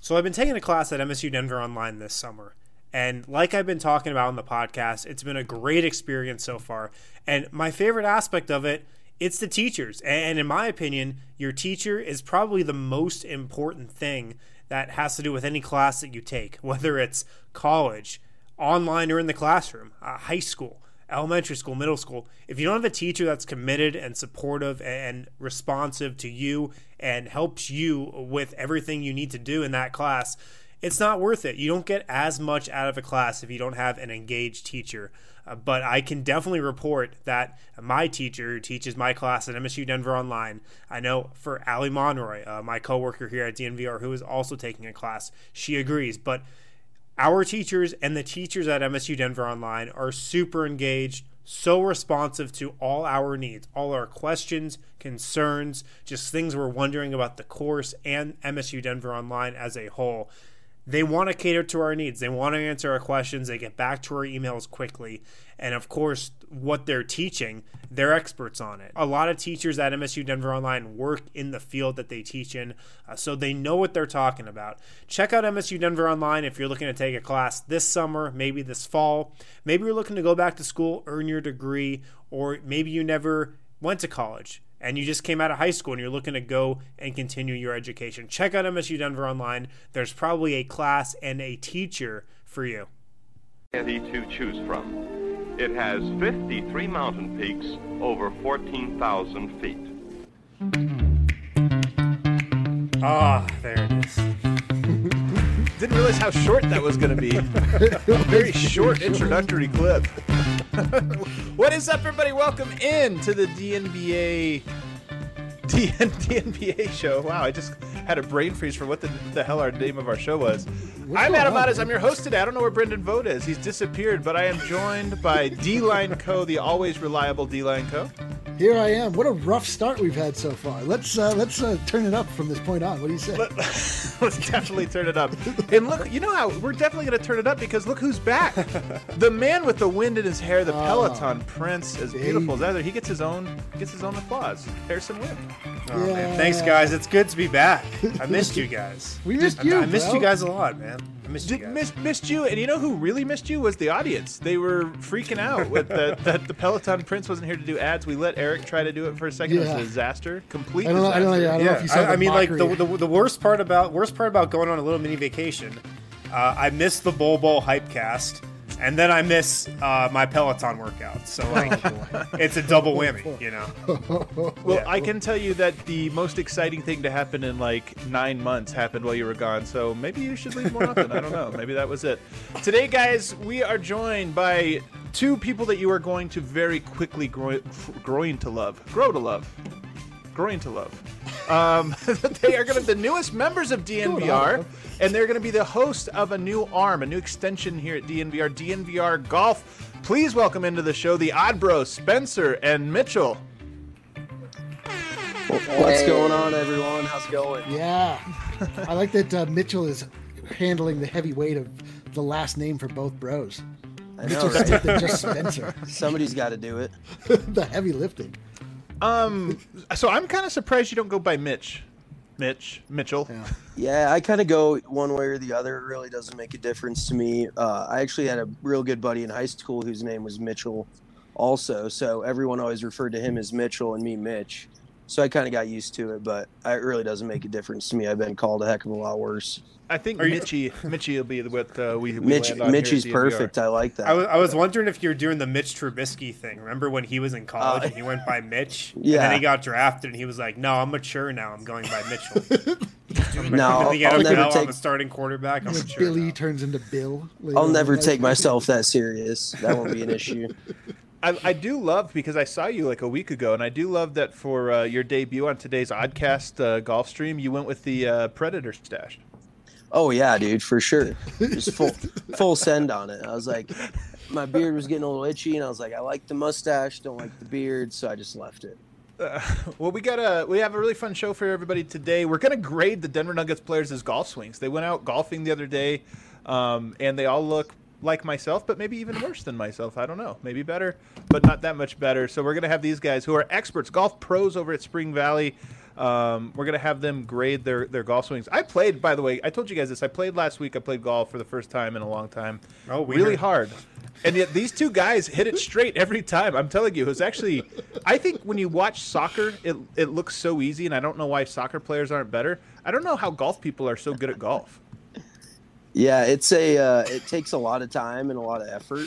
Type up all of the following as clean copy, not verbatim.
So I've been taking a class at MSU Denver Online this summer. And like I've been talking about on the podcast, it's been a great experience so far. And my favorite aspect of it, it's the teachers. And in my opinion, your teacher is probably the most important thing that has to do with any class that you take, whether it's college, online, or in the classroom, high school, elementary school, middle school. If you don't have a teacher that's committed and supportive and responsive to you and helps you with everything you need to do in that class, it's not worth it. You don't get as much out of a class if you don't have an engaged teacher. But I can definitely report that my teacher who teaches my class at MSU Denver Online, I know for Allie Monroy, my coworker here at DNVR, who is also taking a class, she agrees. But our teachers and the teachers at MSU Denver Online are super engaged, so responsive to all our needs, all our questions, concerns, just things we're wondering about the course and MSU Denver Online as a whole. They want to cater to our needs. They want to answer our questions. They get back to our emails quickly. And of course, what they're teaching, they're experts on it. A lot of teachers at MSU Denver Online work in the field that they teach in, so they know what they're talking about. Check out MSU Denver Online if you're looking to take a class this summer, maybe this fall. Maybe you're looking to go back to school, earn your degree, or maybe you never went to college and you just came out of high school and you're looking to go and continue your education. Check out MSU Denver Online. There's probably a class and a teacher for you. To choose from. It has 53 mountain peaks over 14,000 feet. Ah, there it is. Didn't realize how short that was going to be. Very short introductory clip. What is up, everybody? Welcome in to the DNBA show. Wow, I just had a brain freeze for what the hell our name of our show was. I'm Adam Mattes. I'm your host today. I don't know where Brendan Vogt is. He's disappeared, but I am joined by D-Line Co., the always reliable D-Line Co. Here I am. What a rough start we've had so far. Let's turn it up from this point on. What do you say? Let's definitely turn it up. And look, you know how we're definitely going to turn it up because look who's back. The man with the wind in his hair, the Peloton Prince, as beautiful as ever. He gets his own applause. Harrison Wind. Oh, yeah. Man. Thanks, guys. It's good to be back. I missed you guys. We missed you. I missed you guys a lot, man. I missed you guys. Missed you, and you know who really missed you was the audience. They were freaking out that the Peloton Prince wasn't here to do ads. We let Eric try to do it for a second. It was a disaster. Complete disaster. I don't know if you saw I mean, like the worst part about going on a little mini vacation. I missed the Bowl Hypecast. And then I miss my Peloton workout. So, like, it's a double whammy, you know? Well, yeah. I can tell you that the most exciting thing to happen in, 9 months happened while you were gone. So maybe you should leave more often. I don't know. Maybe that was it. Today, guys, we are joined by two people that you are going to very quickly grow to love. They are going to be the newest members of DNVR, and they're going to be the host of a new arm, a new extension here at DNVR, DNVR Golf. Please welcome into the show the Odd Bros, Spencer and Mitchell. What's going on, everyone? How's it going? Yeah. I like that Mitchell is handling the heavy weight of the last name for both bros. I know, right? Just Spencer. Somebody's got to do it. The heavy lifting. So I'm kind of surprised you don't go by Mitchell. Yeah, I kind of go one way or the other. It really doesn't make a difference to me. I actually had a real good buddy in high school whose name was Mitchell also. So everyone always referred to him as Mitchell and me Mitch. So I kind of got used to it, but it really doesn't make a difference to me. I've been called a heck of a lot worse. I think Mitchie will be what we Mitchie's land on perfect. I like that. I was wondering if you're doing the Mitch Trubisky thing. Remember when he was in college and he went by Mitch? Yeah. And then he got drafted and he was like, no, I'm mature now. I'm going by Mitchell. No, I'll never take... I'm a starting quarterback. I'm mature Billy now. Turns into Bill. I'll never take myself that serious. That won't be an issue. I do love, because I saw you like a week ago, and I do love that for your debut on today's Oddcast golf stream, you went with the Predator stash. Oh, yeah, dude, for sure. Just full send on it. I was like, my beard was getting a little itchy, and I was like, I like the mustache, don't like the beard, so I just left it. Well, we have a really fun show for everybody today. We're going to grade the Denver Nuggets players' golf swings. They went out golfing the other day, and they all look like myself, but maybe even worse than myself. I don't know. Maybe better, but not that much better. So we're going to have these guys who are experts, golf pros over at Spring Valley. We're gonna have them grade their golf swings. I played, by the way. I told you guys this. I played last week. I played golf for the first time in a long time. Oh, really hard. And yet these two guys hit it straight every time. I'm telling you, it was actually. I think when you watch soccer, it looks so easy, and I don't know why soccer players aren't better. I don't know how golf people are so good at golf. Yeah, it takes a lot of time and a lot of effort.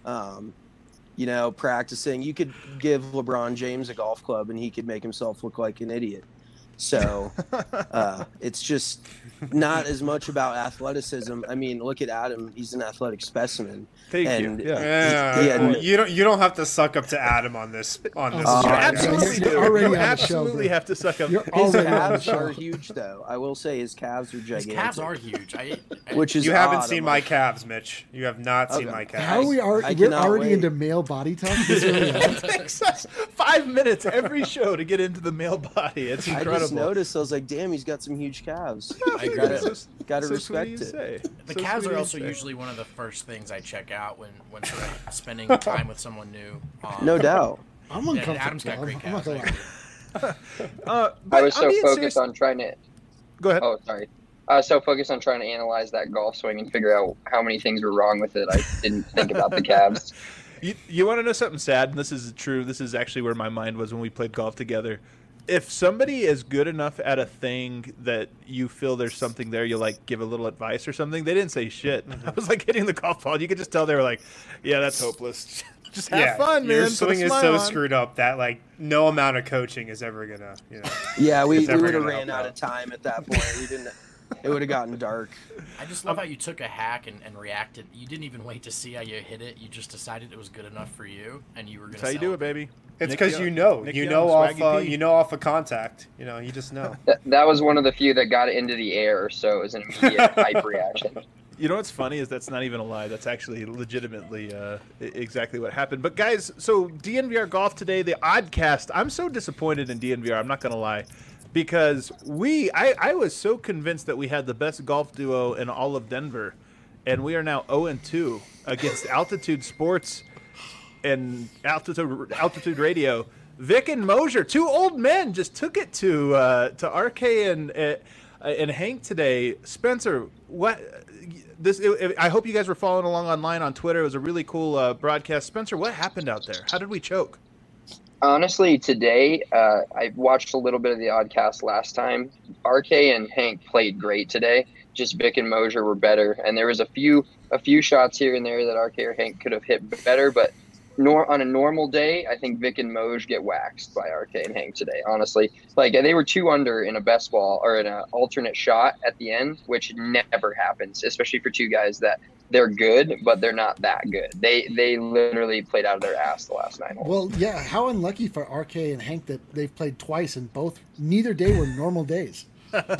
Practicing. You could give LeBron James a golf club and he could make himself look like an idiot. So it's just not as much about athleticism. I mean, look at Adam; he's an athletic specimen. Thank and you. Yeah. You don't have to suck up to Adam on this. You absolutely do. You absolutely have to suck up. His calves are huge, though. I will say his calves are gigantic. His calves are huge. Which is you haven't seen my calves, Mitch. You have not seen my calves. How are we? We're already into male body talk. It takes us 5 minutes every show to get into the male body. It's incredible. I just noticed. I was like, damn, he's got some huge calves. I agree. Gotta respect it. The calves are also usually one of the first things I check out when sort of spending time with someone new. No doubt. I'm uncomfortable. Adam's got great calves. I was so focused on trying to. Go ahead. Oh, sorry. I was so focused on trying to analyze that golf swing and figure out how many things were wrong with it. I didn't think about the calves. You want to know something sad? And this is true. This is actually where my mind was when we played golf together. If somebody is good enough at a thing that you feel there's something there, you like give a little advice or something. They didn't say shit. I was like hitting the golf ball. You could just tell they were like, "Yeah, that's hopeless. Just have fun, man." Your swing is so screwed up that like no amount of coaching is ever gonna, Yeah, we would have ran out of time at that point. We didn't. It would have gotten dark. I just love how you took a hack and reacted. You didn't even wait to see how you hit it. You just decided it was good enough for you, and you were going to. That's how you do it, baby. It's because you know off of contact. You just know. That was one of the few that got it into the air, so it was an immediate hype reaction. You know what's funny is that's not even a lie. That's actually legitimately exactly what happened. But guys, so DNVR Golf today, the Oddcast. I'm so disappointed in DNVR. I'm not going to lie. Because I was so convinced that we had the best golf duo in all of Denver, and we are now 0-2 against Altitude Sports and Altitude Radio. Vic and Mosier, two old men, just took it to RK and Hank today. Spencer, I hope you guys were following along online on Twitter. It was a really cool broadcast. Spencer, what happened out there? How did we choke? Honestly, today, I watched a little bit of the Oddcast last time. RK and Hank played great today. Just Vic and Mosier were better. And there was a few shots here and there that RK or Hank could have hit better. But on a normal day, I think Vic and Mosier get waxed by RK and Hank today, honestly. Like, they were 2 under in a best ball or in an alternate shot at the end, which never happens, especially for two guys that they're good, but they're not that good. They literally played out of their ass the last 9 holes. Well, yeah, how unlucky for RK and Hank that they've played twice and neither day were normal days. What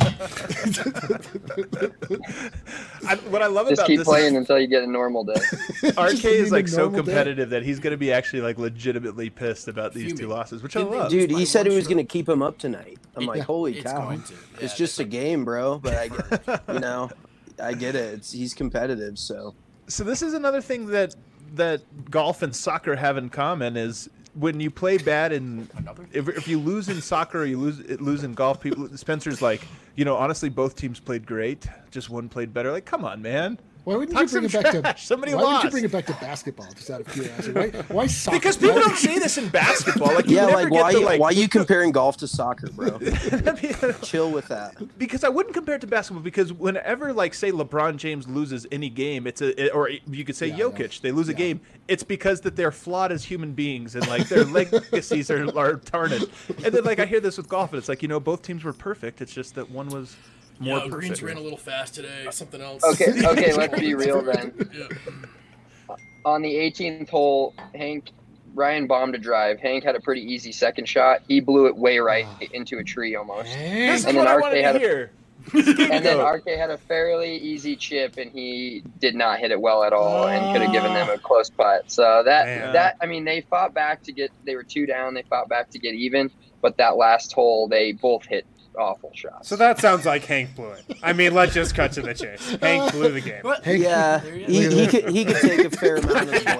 I love just about keep this playing until you get a normal day. RK is like so competitive that he's going to be actually like legitimately pissed about these 2 losses, which I love. Dude, he said he was going to keep him up tonight. I'm like, holy cow! It's just a game, bro. But I get it. I get it. He's competitive, so this is another thing that golf and soccer have in common is when you play bad and if you lose in soccer or you lose in golf, Spencer's like, honestly, both teams played great. Just one played better. Like, come on, man. Why wouldn't you bring it back to somebody why lost? Would you bring it back to basketball? Just out of curiosity, why soccer? Because people don't say this in basketball. Like, why are you comparing golf to soccer, bro? Chill with that. Because I wouldn't compare it to basketball. Because whenever, like, say LeBron James loses any game, or you could say Jokic, they lose a game. It's because that they're flawed as human beings and like their legacies are tarnished. And then like I hear this with golf, and it's like both teams were perfect. It's just that one was. More Greens ran a little fast today. Something else. Okay, let's be real then. On the 18th hole, Ryan bombed a drive. Hank had a pretty easy second shot. He blew it way right into a tree almost. This is what I wanted to hear. And then RK had a fairly easy chip, and he did not hit it well at all, and could have given them a close putt. So they fought back they were 2 down. They fought back to get even, but that last hole, they both hit awful shots. So that sounds like Hank blew it. I mean, let's just cut to the chase. Hank blew the game. What? Hank, Yeah, There he is. he could take a fair amount of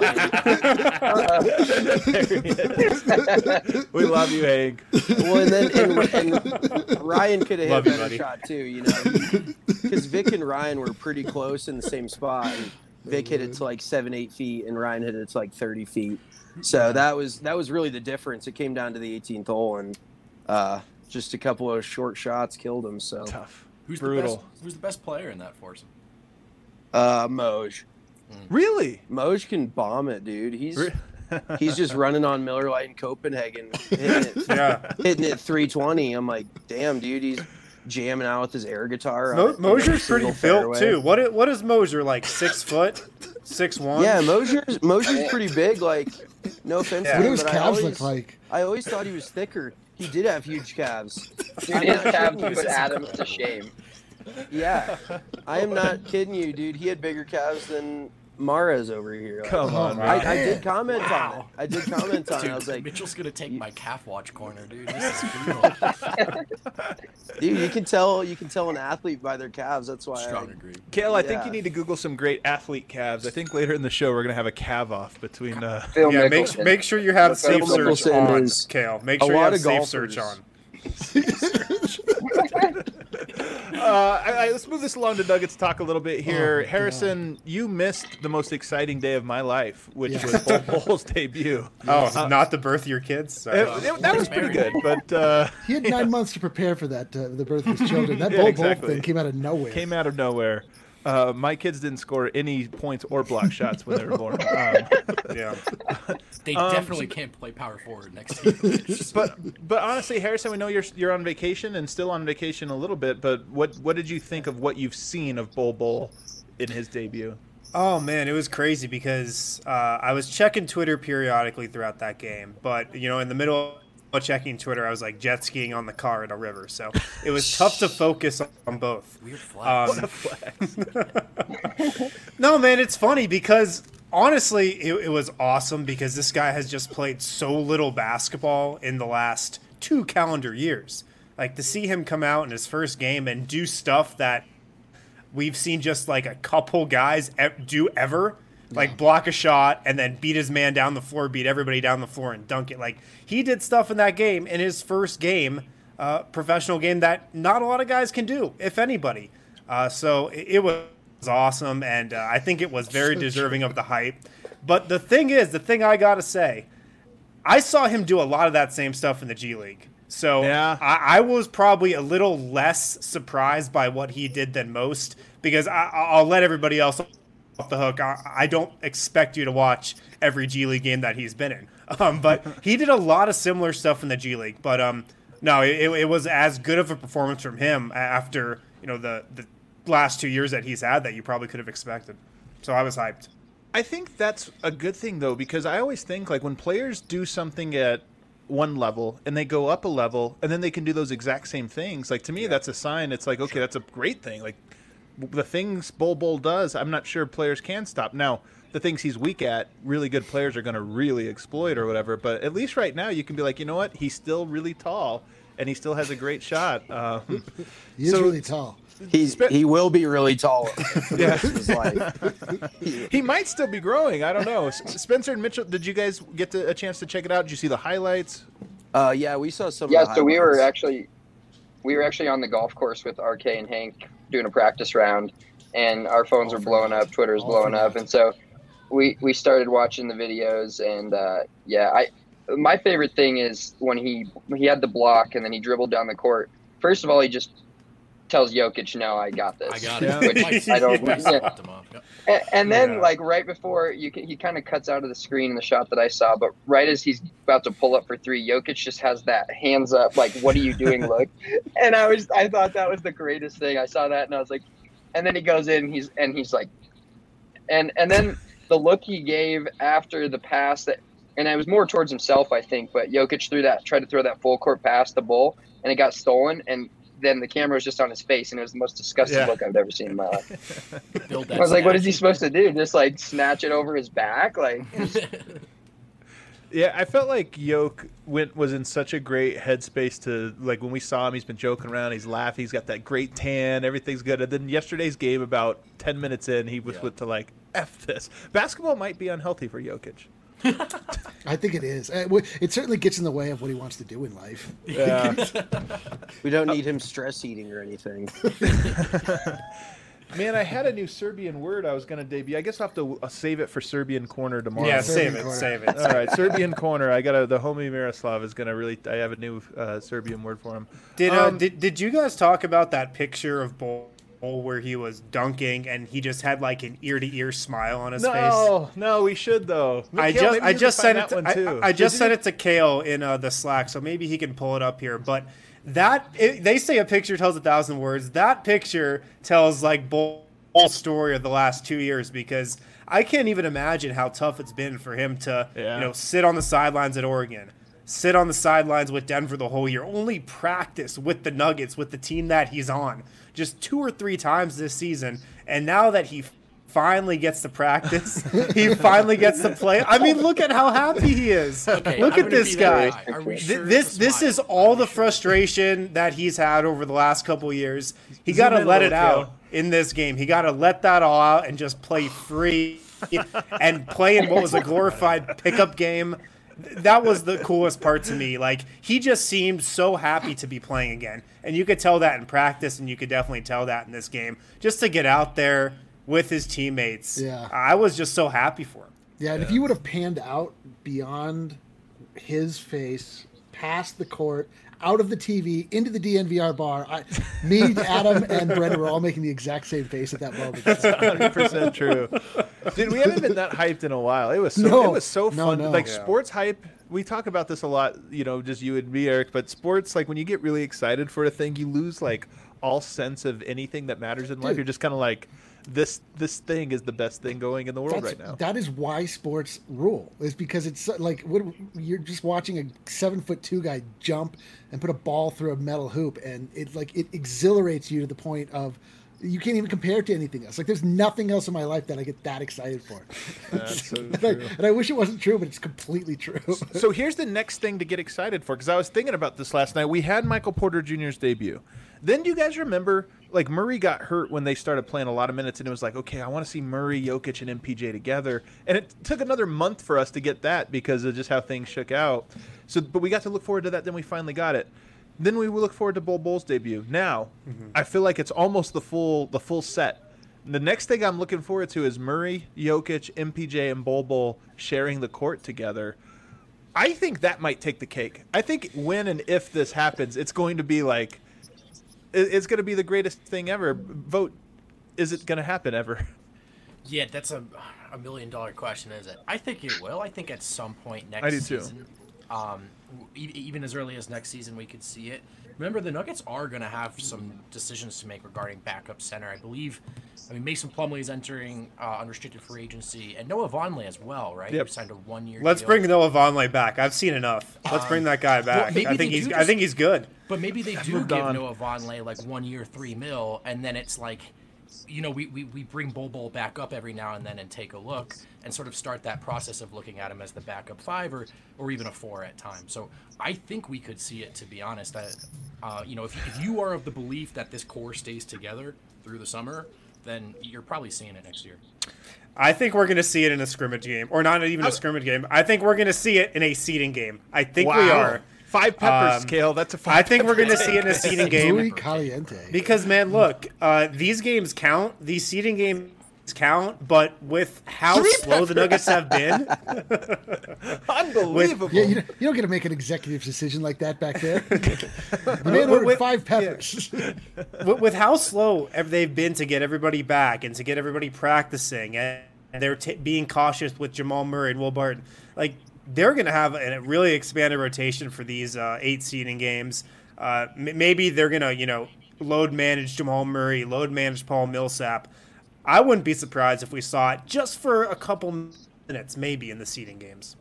blame. We love you, Hank. Well, and Ryan could have hit Love a you, better buddy. shot too, you know, because Vic and Ryan were pretty close in the same spot. And Vic hit it to like 7-8 feet, and Ryan hit it to like 30 feet. So that was really the difference. It came down to the 18th hole, and just a couple of short shots killed him. So Tough. Who's the best player in that foursome? Moj Really? Moj can bomb it, dude. He's just running on Miller Lite in Copenhagen, hitting it 320. I'm like, damn, dude, he's jamming out with his air guitar. Mosier's pretty single built fairway. too. What is Mosier like? 6 foot, 6'1"? Yeah, Mosier's pretty big. Like, no offense. Yeah. to what do him, his but calves look like? I always thought he was thicker. He did have huge calves. Dude, his calves put Adams to shame. Yeah, I am not kidding you, dude. He had bigger calves than Mara's over here. Like, Come on, Wow. man. I did comment on it. I did comment on it. Dude, I was like, Mitchell's gonna take my calf watch corner, dude. This is brutal. dude, you can tell an athlete by their calves. That's why. Strong agree. Kale, I think Yeah. you need to Google some great athlete calves. I think later in the show we're gonna have a calf off between. Phil Yeah, Mickelson. make sure you have Phil safe search Mickelson on, is Kale. Make a sure you lot have of safe golfers. search on. Let's move this along to Nuggets talk a little bit here. Oh, my Harrison, you missed the most exciting day of my life, which Yeah. was Bull Bull's debut. Oh, not the birth of your kids? Sorry. That was pretty good, but He had 9 months to prepare for that, the birth of his children. That Yeah, Bull exactly. Bull thing came out of nowhere. came out of nowhere. My kids didn't score any points or block shots when they were born. Yeah. They definitely can't play power forward next year. It's- But honestly, Harrison, we know you're on vacation and still on vacation a little bit. But what did you think of what you've seen of Bull Bull in his debut? Oh man, it was crazy because I was checking Twitter periodically throughout that game, but in the middle of checking Twitter, I was like jet skiing on the car at a river, so it was tough to focus on both. Weird flag. No, man, it's funny because honestly, it was awesome because this guy has just played so little basketball in the last 2 calendar years. Like to see him come out in his first game and do stuff that we've seen just like a couple guys do ever, like block a shot and then beat his man down the floor, beat everybody down the floor and dunk it. Like he did stuff in that game in his first game, professional game that not a lot of guys can do, if anybody. So it was awesome, and I think it was very deserving of the hype. But the thing I gotta say, I saw him do a lot of that same stuff in the G League. So Yeah. I was probably a little less surprised by what he did than most because I'll let everybody else off the hook. I don't expect you to watch every G League game that he's been in. But he did a lot of similar stuff in the G League. But no, it was as good of a performance from him after the last 2 years that he's had that you probably could have expected. So I was hyped. I think that's a good thing though, because I always think like when players do something at one level and they go up a level and then they can do those exact same things. Like to me, that's a sign. It's like, okay, that's a great thing. Like the things Bull does, I'm not sure players can stop. Now, the things he's weak at, really good players are going to really exploit or whatever. But at least right now, you can be like, you know what? He's still really tall and he still has a great shot. He is really tall. He will be really tall. Yeah. His life. He might still be growing. I don't know. Spencer and Mitchell, did you guys get a chance to check it out? Did you see the highlights? Yeah, we saw some. Yeah, of the so we were highlights. actually on the golf course with RK and Hank doing a practice round, and our phones were blowing up, Twitter was blowing up, and so we started watching the videos, and my favorite thing is when he had the block and then he dribbled down the court. First of all, he just tells Jokic, "No, I got this." I got Yeah. it. Which I don't. Yeah. Popped him up. Yep. And then, Yeah. like right before he kind of cuts out of the screen in the shot that I saw, but right as he's about to pull up for 3, Jokic just has that hands up, like "What are you doing?" look, and I thought that was the greatest thing. I saw that and I was like, and then he goes in, he's like, and then the look he gave after the pass that, and it was more towards himself, I think, but Jokic tried to throw that full court pass to Bull, and it got stolen, and then the camera was just on his face, and it was the most disgusting look I've ever seen in my life. Build that I was like, what is he statue. supposed to do? Just like snatch it over his back? Like, Yeah, I felt like was in such a great headspace to, like, when we saw him, he's been joking around, he's laughing, he's got that great tan, everything's good. And then yesterday's game, about 10 minutes in, he was went to, like, F this. Basketball might be unhealthy for Jokic. I think it is. It certainly gets in the way of what he wants to do in life. Yeah. We don't need him stress eating or anything. Man, I had a new Serbian word I was going to debut. I guess I'll have to save it for Serbian Corner tomorrow. Yeah, Serbian save corner. it. All right, Serbian Corner. The homie Miroslav is going to really. I have a new Serbian word for him. Did you guys talk about that picture of Bull where he was dunking and he just had like an ear to ear smile on his face? No, we should though. I just sent it to Kale in the Slack, so maybe he can pull it up here. But they say a picture tells 1,000 words. That picture tells like Bull's story of the last 2 years, because I can't even imagine how tough it's been for him to sit on the sidelines at Oregon, sit on the sidelines with Denver the whole year, only practice with the Nuggets, with the team that he's on, just 2 or 3 times this season. And now that he finally gets to practice, he finally gets to play. I mean, look at how happy he is. Okay, look I'm at this gonna be guy. that guy. Are we sure This it's a is smile? all the frustration that he's had over the last couple years. He got Zoom to in let a it little, out Kale. in this game. He got to let that all out and just play free and play in what was a glorified pickup game. That was the coolest part to me. Like, he just seemed so happy to be playing again. And you could tell that in practice, and you could definitely tell that in this game. Just to get out there with his teammates. Yeah. I was just so happy for him. Yeah, and if you would have panned out beyond his face, past the court, out of the TV, into the DNVR bar, me, Adam, and Brendan were all making the exact same face at that moment. 100% true. Dude, we haven't been that hyped in a while. It was so fun. No. Like, Yeah. sports hype, we talk about this a lot, just you and me, Eric, but sports, like, when you get really excited for a thing, you lose, like, all sense of anything that matters in life. Dude. You're just kind of like, this thing is the best thing going in the world right now. That is why sports rule. Is because it's like you're just watching a 7'2" guy jump and put a ball through a metal hoop, and it exhilarates you to the point of you can't even compare it to anything else. Like, there's nothing else in my life that I get that excited for. That's so and true. I wish it wasn't true, but it's completely true. So here's the next thing to get excited for, because I was thinking about this last night. We had Michael Porter Jr.'s debut. Then do you guys remember, like, Murray got hurt when they started playing a lot of minutes, and it was like, okay, I want to see Murray, Jokic, and MPJ together. And it took another month for us to get that because of just how things shook out. But we got to look forward to that. Then we finally got it. Then we will look forward to Bull's debut. Now, I feel like it's almost the full set. The next thing I'm looking forward to is Murray, Jokic, MPJ, and Bull sharing the court together. I think that might take the cake. I think when and if this happens, it's going to be like, it's going to be the greatest thing ever. Vote, is it going to happen ever? Yeah, that's a $1 million question, is it? I think it will. I think at some point next I do too. season, even as early as next season, we could see it. Remember, the Nuggets are going to have some decisions to make regarding backup center. I believe, Mason Plumlee is entering unrestricted free agency, and Noah Vonleh as well, right? Yep. Who signed a 1-year Let's deal. bring Noah Vonleh back. I've seen enough. Let's bring that guy back. maybe I think they do I think he's good. But maybe they do moved give on. Noah Vonleh like 1 year, $3 million, and then it's like, we bring Bull back up every now and then and take a look and sort of start that process of looking at him as the backup 5 or even a 4 at times. So I think we could see it, to be honest. If you are of the belief that this core stays together through the summer, then you're probably seeing it next year. I think we're going to see it in a scrimmage game, or not even a scrimmage game. I think we're going to see it in a seeding game. I think we are. 5 peppers, Kale. That's a 5. I think we're going to see it in a seeding Muy game caliente. because, man, look, these games count. These seeding games count, but with how slow the Nuggets have been, Unbelievable. Yeah, you don't get to make an executive decision like that back there. The man ordered 5 peppers. with how slow they've been to get everybody back and to get everybody practicing, and they're being cautious with Jamal Murray and Will Barton, like, they're going to have a really expanded rotation for these 8 seeding games. Maybe they're going to, load manage Jamal Murray, load manage Paul Millsap. I wouldn't be surprised if we saw it just for a couple minutes, maybe in the seeding games.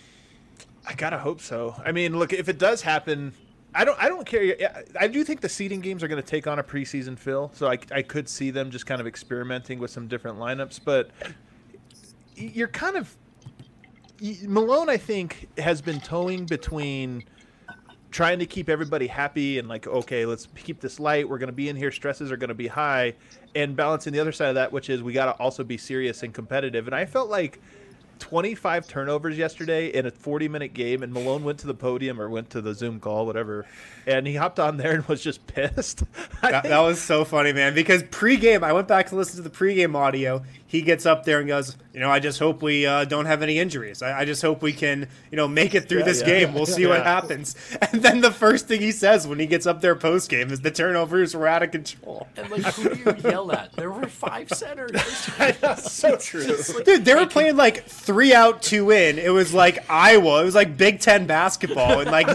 I gotta hope so. I mean, look, if it does happen, I don't care. I do think the seeding games are going to take on a preseason feel, so I could see them just kind of experimenting with some different lineups. But you're kind of, Malone, I think, has been towing between trying to keep everybody happy and like, okay, let's keep this light. We're going to be in here. Stresses are going to be high, and balancing the other side of that, which is we got to also be serious and competitive. And I felt like 25 turnovers yesterday in a 40-minute game, and Malone went to the podium or went to the Zoom call, whatever, and he hopped on there and was just pissed. That was so funny, man, because pregame, I went back to listen to the pregame audio. He gets up there and goes, I just hope we don't have any injuries. I just hope we can, make it through this game. We'll see what happens. And then the first thing he says when he gets up there postgame is the turnovers were out of control. And like, who do you yell at? There were 5 centers. That's so true. Dude, they were playing like 3 out, 2 in. It was like Iowa. It was like Big Ten basketball in like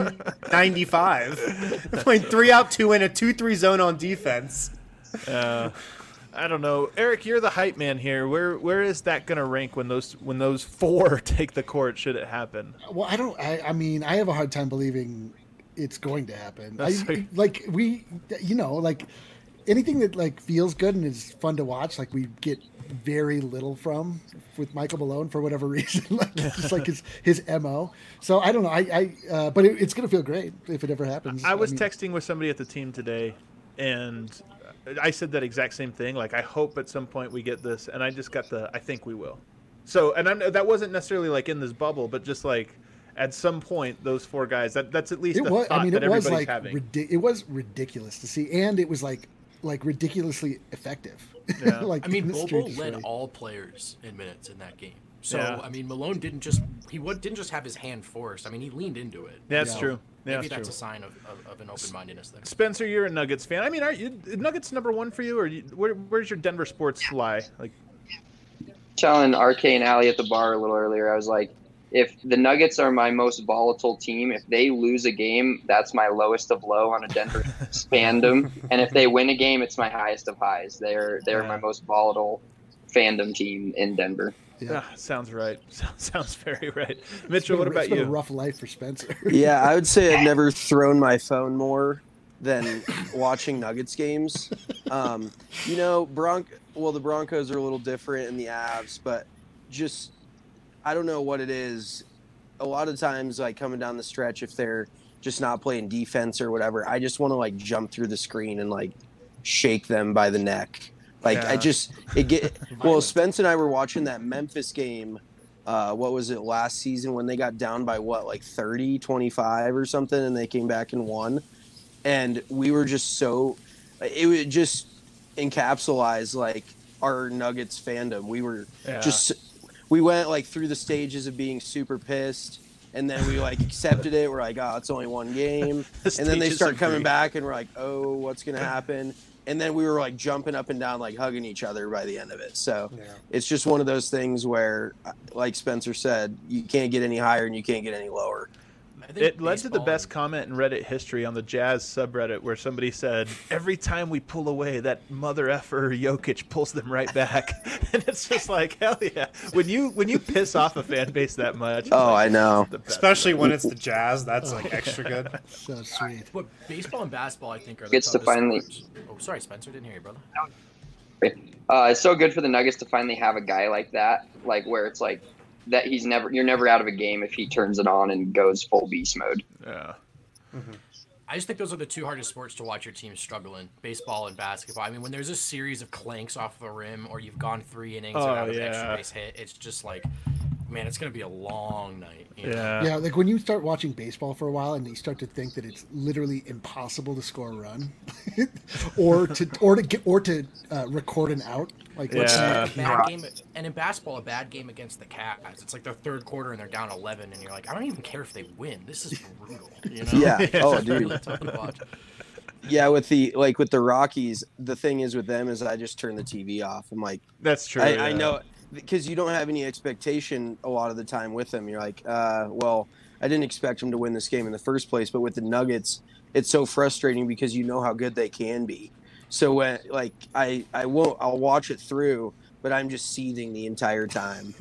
1995. Playing 3 out, 2 in, a 2-3 zone on defense. I don't know, Eric. You're the hype man here. Where is that going to rank when those 4 take the court? Should it happen? Well, I mean, I have a hard time believing it's going to happen. Anything that like feels good and is fun to watch, like we get very little from with Michael Malone for whatever reason, like just like his MO. So I don't know. But it's going to feel great if it ever happens. I was texting with somebody at the team today, and I said that exact same thing. Like, I hope at some point we get this, and I just got I think we will. So, and that wasn't necessarily like in this bubble, but just like at some point, those 4 guys. That's at least thought that everybody's having. It was ridiculous to see, and it was like ridiculously effective. Yeah. Bol Bol led all players in minutes in that game. So Malone didn't just have his hand forced. He leaned into it. That's true. Maybe that's a sign of an open-mindedness there. Spencer, you're a Nuggets fan. Are you Nuggets number 1 for you, or where's your Denver sports lie? Like, telling RK and Allie at the bar a little earlier, I was like, if the Nuggets are my most volatile team, if they lose a game, that's my lowest of low on a Denver fandom, and if they win a game, it's my highest of highs. They're my most volatile fandom team in Denver. Yeah, sounds right. Sounds very right. Mitchell, what about you? It's been a rough life for Spencer. Yeah, I would say I've never thrown my phone more than watching Nuggets games. The Broncos are a little different in the Avs, but just I don't know what it is. A lot of times, like coming down the stretch, if they're just not playing defense or whatever, I just want to like jump through the screen and like shake them by the neck. Spence and I were watching that Memphis game. What was it, last season when they got down by 30, 25 or something, and they came back and won. And we were just it would just encapsulate like our Nuggets fandom. We were we went like through the stages of being super pissed, and then we like accepted it. We're like, oh, it's only one game. And then they start coming back, and we're like, oh, what's going to happen? And then we were like jumping up and down, like hugging each other by the end of it. So it's just one of those things where, like Spencer said, you can't get any higher and you can't get any lower. It led to the best comment in Reddit history on the Jazz subreddit, where somebody said, every time we pull away, that mother effer Jokic pulls them right back. And it's just like, hell yeah. When you piss off a fan base that much. Oh, I know. Especially when it's the Jazz. That's like extra good. So sweet. But baseball and basketball, I think, are the Gets to finally. Sports. Oh, sorry, Spencer. Didn't hear you, brother. It's so good for the Nuggets to finally have a guy like that, like where it's like, that you're never out of a game if he turns it on and goes full beast mode. Yeah. Mm-hmm. I just think those are the 2 hardest sports to watch your team struggle in, baseball and basketball. When there's a series of clanks off the rim or you've gone 3 innings without an extra base hit, it's just like, man, it's going to be a long night. Yeah, like when you start watching baseball for a while and you start to think that it's literally impossible to score a run or to record an out. Like, a bad game, and in basketball, a bad game against the Cavs. It's like their third quarter and they're down 11, and you're like, I don't even care if they win. This is brutal. Yeah. Oh, dude. Really tough to watch. Yeah, with the Rockies, the thing is with them is I just turn the TV off. I'm like, that's true. I know, because you don't have any expectation a lot of the time with them. You're like, well, I didn't expect them to win this game in the first place. But with the Nuggets, it's so frustrating because you know how good they can be. So when I'll watch it through, but I'm just seething the entire time,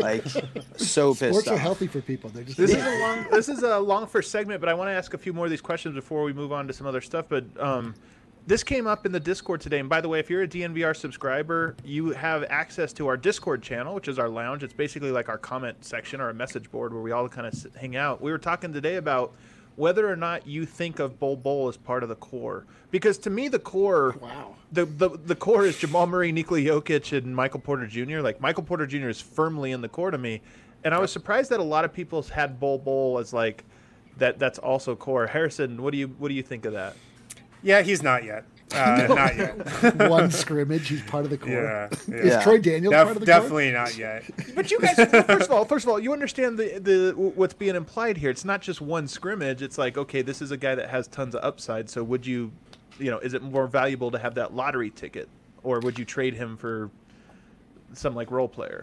so pissed Sports off. are healthy for people. They're just This is a long first segment, but I want to ask a few more of these questions before we move on to some other stuff. But This came up in the Discord today, and by the way, if you're a DNVR subscriber, you have access to our Discord channel, which is our lounge. It's basically like our comment section or a message board where we all kind of hang out. We were talking today about whether or not you think of Bol Bol as part of the core, because to me the core, the core is Jamal Murray, Nikola Jokic, and Michael Porter Jr. Like Michael Porter Jr. is firmly in the core to me, and I was surprised that a lot of people had Bol Bol as like that. That's also core. Harrison, what do you think of that? Yeah, he's not yet. Not yet. One scrimmage, he's part of the core. Yeah. Is Troy Daniels part of the definitely not yet. But you guys, first of all, you understand the what's being implied here. It's not just one scrimmage. It's like, okay, this is a guy that has tons of upside. So would you, is it more valuable to have that lottery ticket, or would you trade him for some like role player?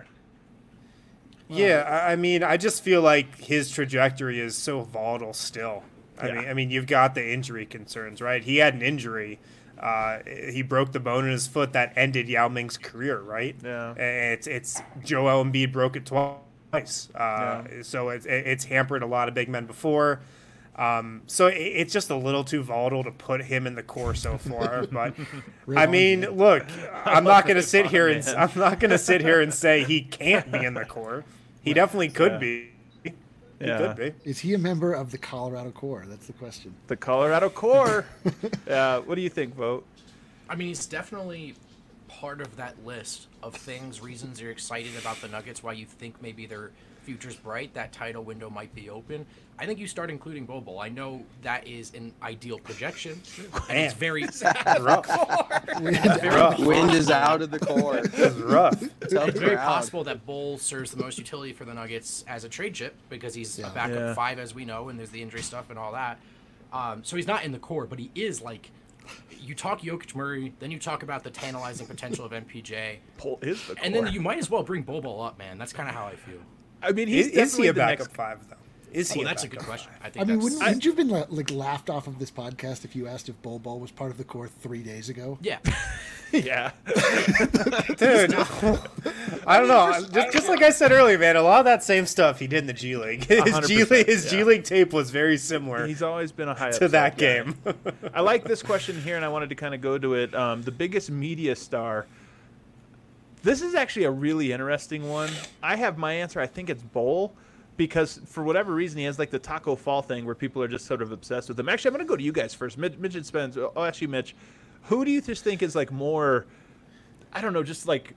Yeah, I mean, I just feel like his trajectory is so volatile still. I mean, you've got the injury concerns, right? He had an injury. He broke the bone in his foot that ended Yao Ming's career, right? Yeah. It's Joel Embiid broke it twice. So it's hampered a lot of big men before. So it's just a little too volatile to put him in the core so far. But I mean, look, I'm not going to sit here and say he can't be in the core. He definitely could be. He could be. Is he a member of the Colorado core? That's the question. The Colorado core. What do you think, Vote? I mean, he's definitely part of that list of reasons you're excited about the Nuggets, why you think maybe their future's bright, that title window might be open. I think you start including Bol Bol. I know that is an ideal projection, and it's very rough. Wind is out of the core. It's rough. It's very possible that Bol serves the most utility for the Nuggets as a trade chip because he's a backup 5, as we know, and there's the injury stuff and all that. So he's not in the core, but he is like. You talk Jokic Murray, then you talk about the tantalizing potential of MPJ. Bol is the core. And then you might as well bring Bol Bol up, man. That's kind of how I feel. I mean, is he a backup 5 though? Is he? That's a good question. I mean, wouldn't you have been like laughed off of this podcast if you asked if Bol Bol was part of the core 3 days ago? Yeah. Yeah. Dude, I don't know. Just like I said earlier, man, a lot of that same stuff he did in the G League. His G League tape was very similar. He's always been a high to that game. I like this question here, and I wanted to kind of go to it. The biggest media star. This is actually a really interesting one. I have my answer. I think it's Bol. Because for whatever reason, he has like the Taco Fall thing where people are just sort of obsessed with him. Actually, I'm going to go to you guys first. Mitch and Spence. I'll ask you, Mitch. Who do you just think is like more, I don't know, just like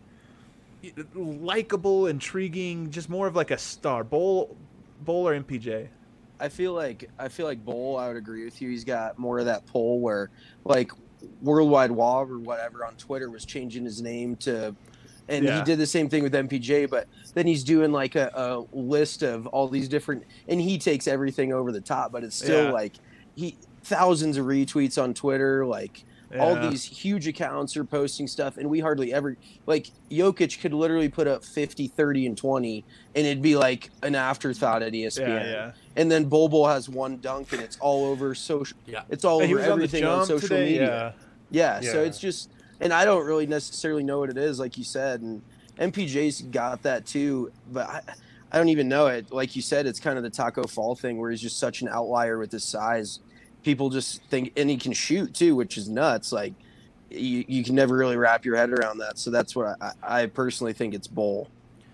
likable, intriguing, just more of like a star? Bol or MPJ? I feel like Bol, I would agree with you. He's got more of that pull where like Worldwide Wob or whatever on Twitter was changing his name to. And he did the same thing with MPJ, but then he's doing like a list of all these different, and he takes everything over the top, but it's still like thousands of retweets on Twitter, like all these huge accounts are posting stuff, and we hardly ever, like Jokic could literally put up 50, 30, and 20, and it'd be like an afterthought at ESPN. And then Bol Bol has one dunk, and it's all over social. It's all over everything on social media. So it's just. And I don't really necessarily know what it is, like you said, and MPJ's got that too, but I don't even know it. Like you said, it's kind of the Taco Fall thing where he's just such an outlier with his size. People just think, and he can shoot too, which is nuts. Like you can never really wrap your head around that. So that's what I personally think it's Bol.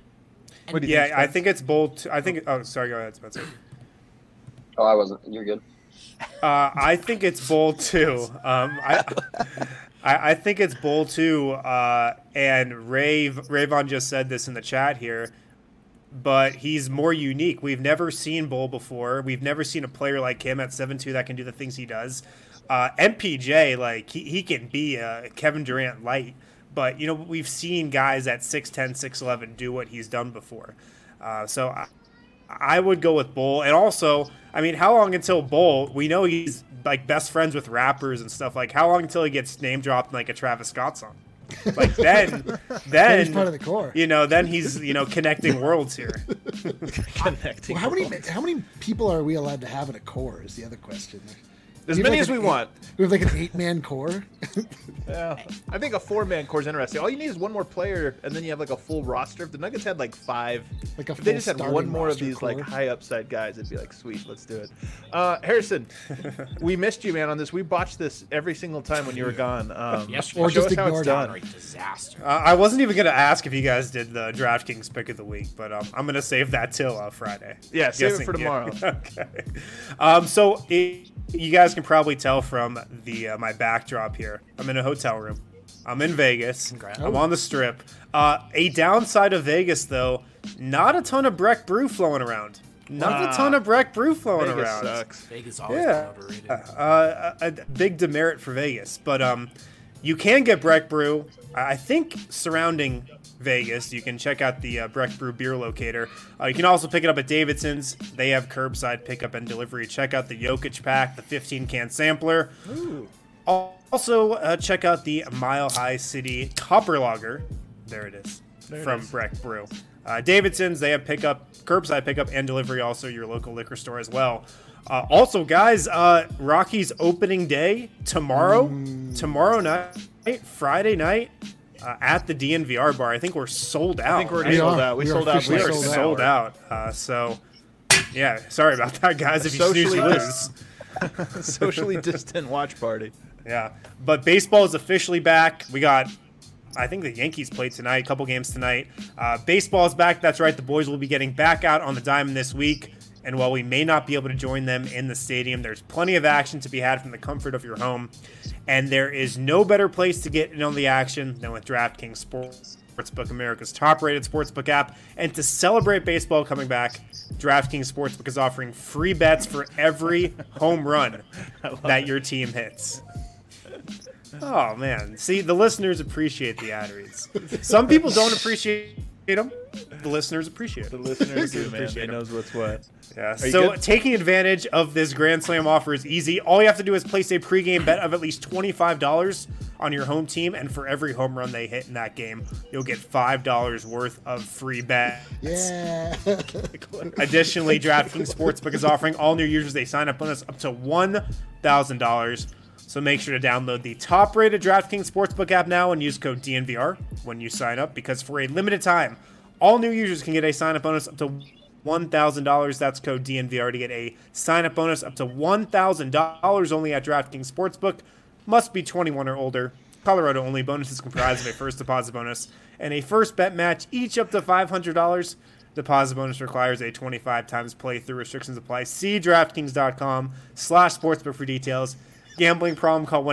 I think it's Bol. I think. Oh, sorry. Go ahead, Spencer. Oh, I wasn't. You're good. I think it's Bol too. I think it's Bol too, and Rayvon just said this in the chat here, but he's more unique. We've never seen Bol before. We've never seen a player like him at 7'2" that can do the things he does. MPJ, like he can be a Kevin Durant light, but we've seen guys at 6'10", 6'11" do what he's done before. So I would go with Bol, and also, I mean, how long until Bol? We know he's like best friends with rappers and stuff. Like, how long until he gets name dropped in like a Travis Scott song? Like then he's part of the core. Then he's connecting worlds here. Connecting. Well, how many people are we allowed to have in a core? Is the other question. As We have many like as we an want. We have like an 8-man core. Yeah, I think a 4-man core is interesting. All you need is one more player, and then you have like a full roster. If the Nuggets had like 5, Like a if they full just had one starting more of roster these like core. high upside guys, it'd be like, sweet, let's do it. Harrison, we missed you, man, on this. We botched this every single time when you were gone. Yesterday, Or show just us how it's ignored it. done. downright disaster. I wasn't even going to ask if you guys did the DraftKings pick of the week, but I'm going to save that till Friday. Yeah, save it Guessing, for tomorrow. Okay. You guys can probably tell from the my backdrop here. I'm in a hotel room. I'm in Vegas. Congrats. I'm on the Strip. A downside of Vegas, though, not a ton of Breck Brew flowing around. Not a ton of Breck Brew flowing Vegas around. sucks. Vegas always Yeah, been overrated. a big demerit for Vegas, but you can get Breck Brew. I think surrounding Vegas, you can check out the Breck Brew beer locator. You can also pick it up at Davidson's. They have curbside pickup and delivery. Check out the Jokic pack, the 15-can sampler. Ooh. Also, check out the Mile High City Copper Lager. There it is, There it from is. Breck Brew. Davidson's, they have curbside pickup and delivery, also your local liquor store as well. Also, guys, Rockies opening day tomorrow night, Friday night, at the DNVR bar. I think we're sold out. I think we're right? sold are. out. We We are sold out. officially We are within an sold hour. out. So, yeah, sorry about that, guys. If you snooze, Socially you dis- lose. Socially distant watch party. Yeah, but baseball is officially back. We got, I think the Yankees played tonight, a couple games tonight. Baseball is back. That's right. The boys will be getting back out on the diamond this week. And while we may not be able to join them in the stadium, there's plenty of action to be had from the comfort of your home. And there is no better place to get in on the action than with DraftKings Sportsbook, America's top-rated sportsbook app. And to celebrate baseball coming back, DraftKings Sportsbook is offering free bets for every home run that your team hits. Oh, man. See, the listeners appreciate the ad reads. Some people don't appreciate them. The listeners appreciate The them. listeners do, man. Appreciate They them. knows what's what. Yeah. you So good? taking advantage of this Grand Slam offer is easy. All you have to do is place a pregame bet of at least $25 on your home team, and for every home run they hit in that game, you'll get $5 worth of free bets. Yeah. Additionally, DraftKings Sportsbook is offering all new users a sign-up bonus up to $1,000. So make sure to download the top-rated DraftKings Sportsbook app now and use code DNVR when you sign up, because for a limited time, all new users can get a sign-up bonus up to $1,000. That's code DNVR to get a sign-up bonus up to $1,000 only at DraftKings Sportsbook. Must be 21 or older. Colorado only. Bonus is comprised of a first deposit bonus and a first bet match, each up to $500. Deposit bonus requires a 25 times playthrough. Restrictions apply. See DraftKings.com/sportsbook for details. Gambling problem, call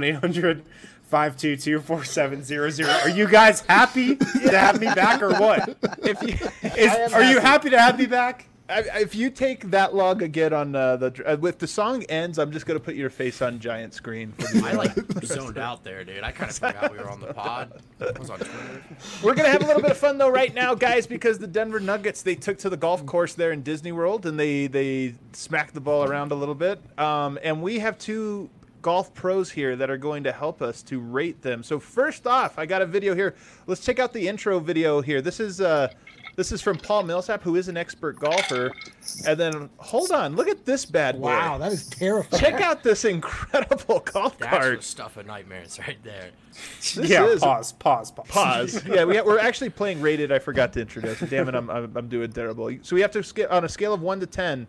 1-800-522-4700. Are you guys happy to have me back or what? If you, Are you happy to have me back? if you take that long again on if the song ends, I'm just gonna put your face on giant screen. For the, I like zoned out there, dude. I kind of forgot we were on the pod. I was on Twitter. We're gonna have a little bit of fun though right now, guys, because the Denver Nuggets, they took to the golf course there in Disney World and they smacked the ball around a little bit. And we have two golf pros here that are going to help us to rate them. So first off, I got a video here. Let's check out the intro video here. This is from Paul Millsap, who is an expert golfer. And then hold on, look at this bad boy. Wow, that is terrifying. Check out this incredible golf That's the cart. stuff of nightmares right there. This Yeah, is- pause. Pause. Yeah, we're actually playing rated. I forgot to introduce. Damn it, I'm doing terrible. So we have to on a scale of 1 to 10.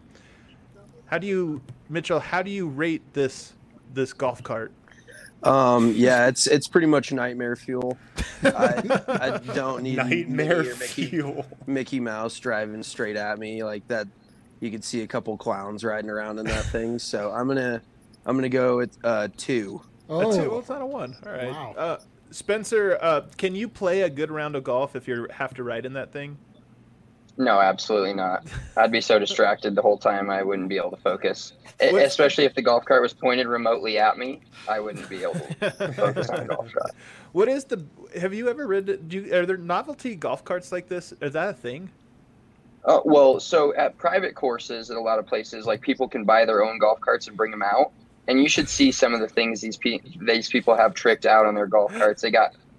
Mitchell? How do you rate this golf cart? Yeah, it's pretty much nightmare fuel. I don't need Nightmare Minnie or fuel. Mickey Mouse driving straight at me like that. You could see a couple clowns riding around in that thing. So I'm gonna go with 2. A 2. Well, Oh, it's not a 1. All right. Wow. Spencer, can you play a good round of golf if you have to ride in that thing? No, absolutely not. I'd be so distracted the whole time I wouldn't be able to focus. What's- Especially if the golf cart was pointed remotely at me, I wouldn't be able to focus on a golf shot. What is have you ever read, are there novelty golf carts like this? Is that a thing? Well, so at private courses at a lot of places, like people can buy their own golf carts and bring them out. And you should see some of the things these people have tricked out on their golf carts. They got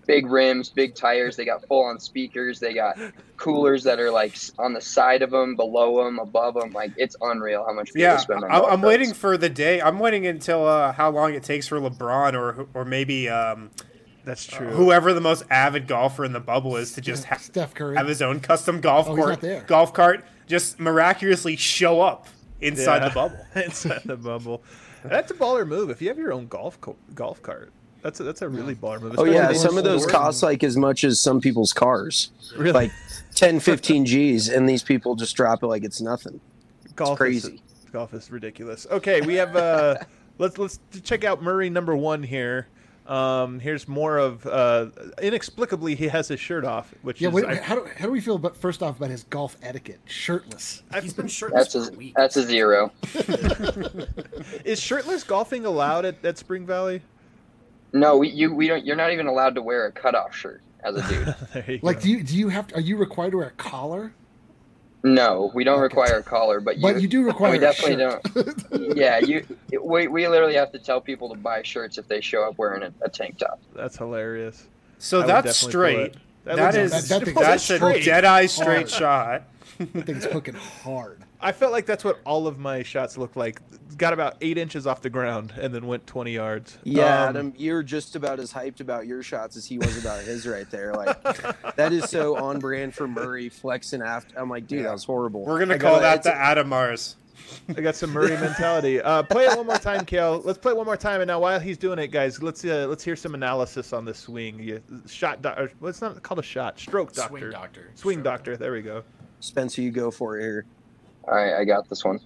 big rims, big tires. They got full on speakers. They got coolers that are like on the side of them, below them, above them. Like, it's unreal how much people spend on golf I'm carts. waiting for the day. I'm waiting until how long it takes for LeBron or maybe That's true. whoever the most avid golfer in the bubble is to just Steph Curry. have his own custom golf he's court, not there. golf cart, just miraculously show up inside the bubble. Inside the bubble. That's a baller move. If you have your own golf cart, that's a really baller move. Oh yeah, Especially some of those indoors. cost like as much as some people's cars. Really? Like 10, 15 G's, and these people just drop it like it's nothing. Golf crazy. Golf is ridiculous. Okay, we have let's check out Murray number 1 here. Here's more of inexplicably he has his shirt off, which Yeah, is how do we feel about first off about his golf etiquette? Shirtless. He's been shirtless That's for a week. a 0. is shirtless golfing allowed at Spring Valley? No, we don't. You're not even allowed to wear a cutoff shirt as a dude. There you Like, go. do you have to, are you required to wear a collar? No, we don't require a collar, but You do require we a definitely shirt. don't. Yeah, we literally have to tell people to buy shirts if they show up wearing a tank top. That's hilarious. So I would that's definitely straight. pull it. That looks- is that thing's that's a straight. dead eye straight Hard. shot. That thing's hooking hard. I felt like that's what all of my shots looked like. Got about 8 inches off the ground and then went 20 yards. Yeah, Adam, you're just about as hyped about your shots as he was about his right there. Like, that is so on brand for Murray flexing after. I'm like, dude, that was horrible. We're gonna I call got- that the Adam Mars. I got some Murray mentality. Play it one more time, Kale. Let's play it one more time. And now, while he's doing it, guys, let's hear some analysis on this swing. Well, it's not called a shot. Stroke doctor. Swing doctor. Swing Stroke doctor. There we go. Spencer, you go for it here. All right, I got this one.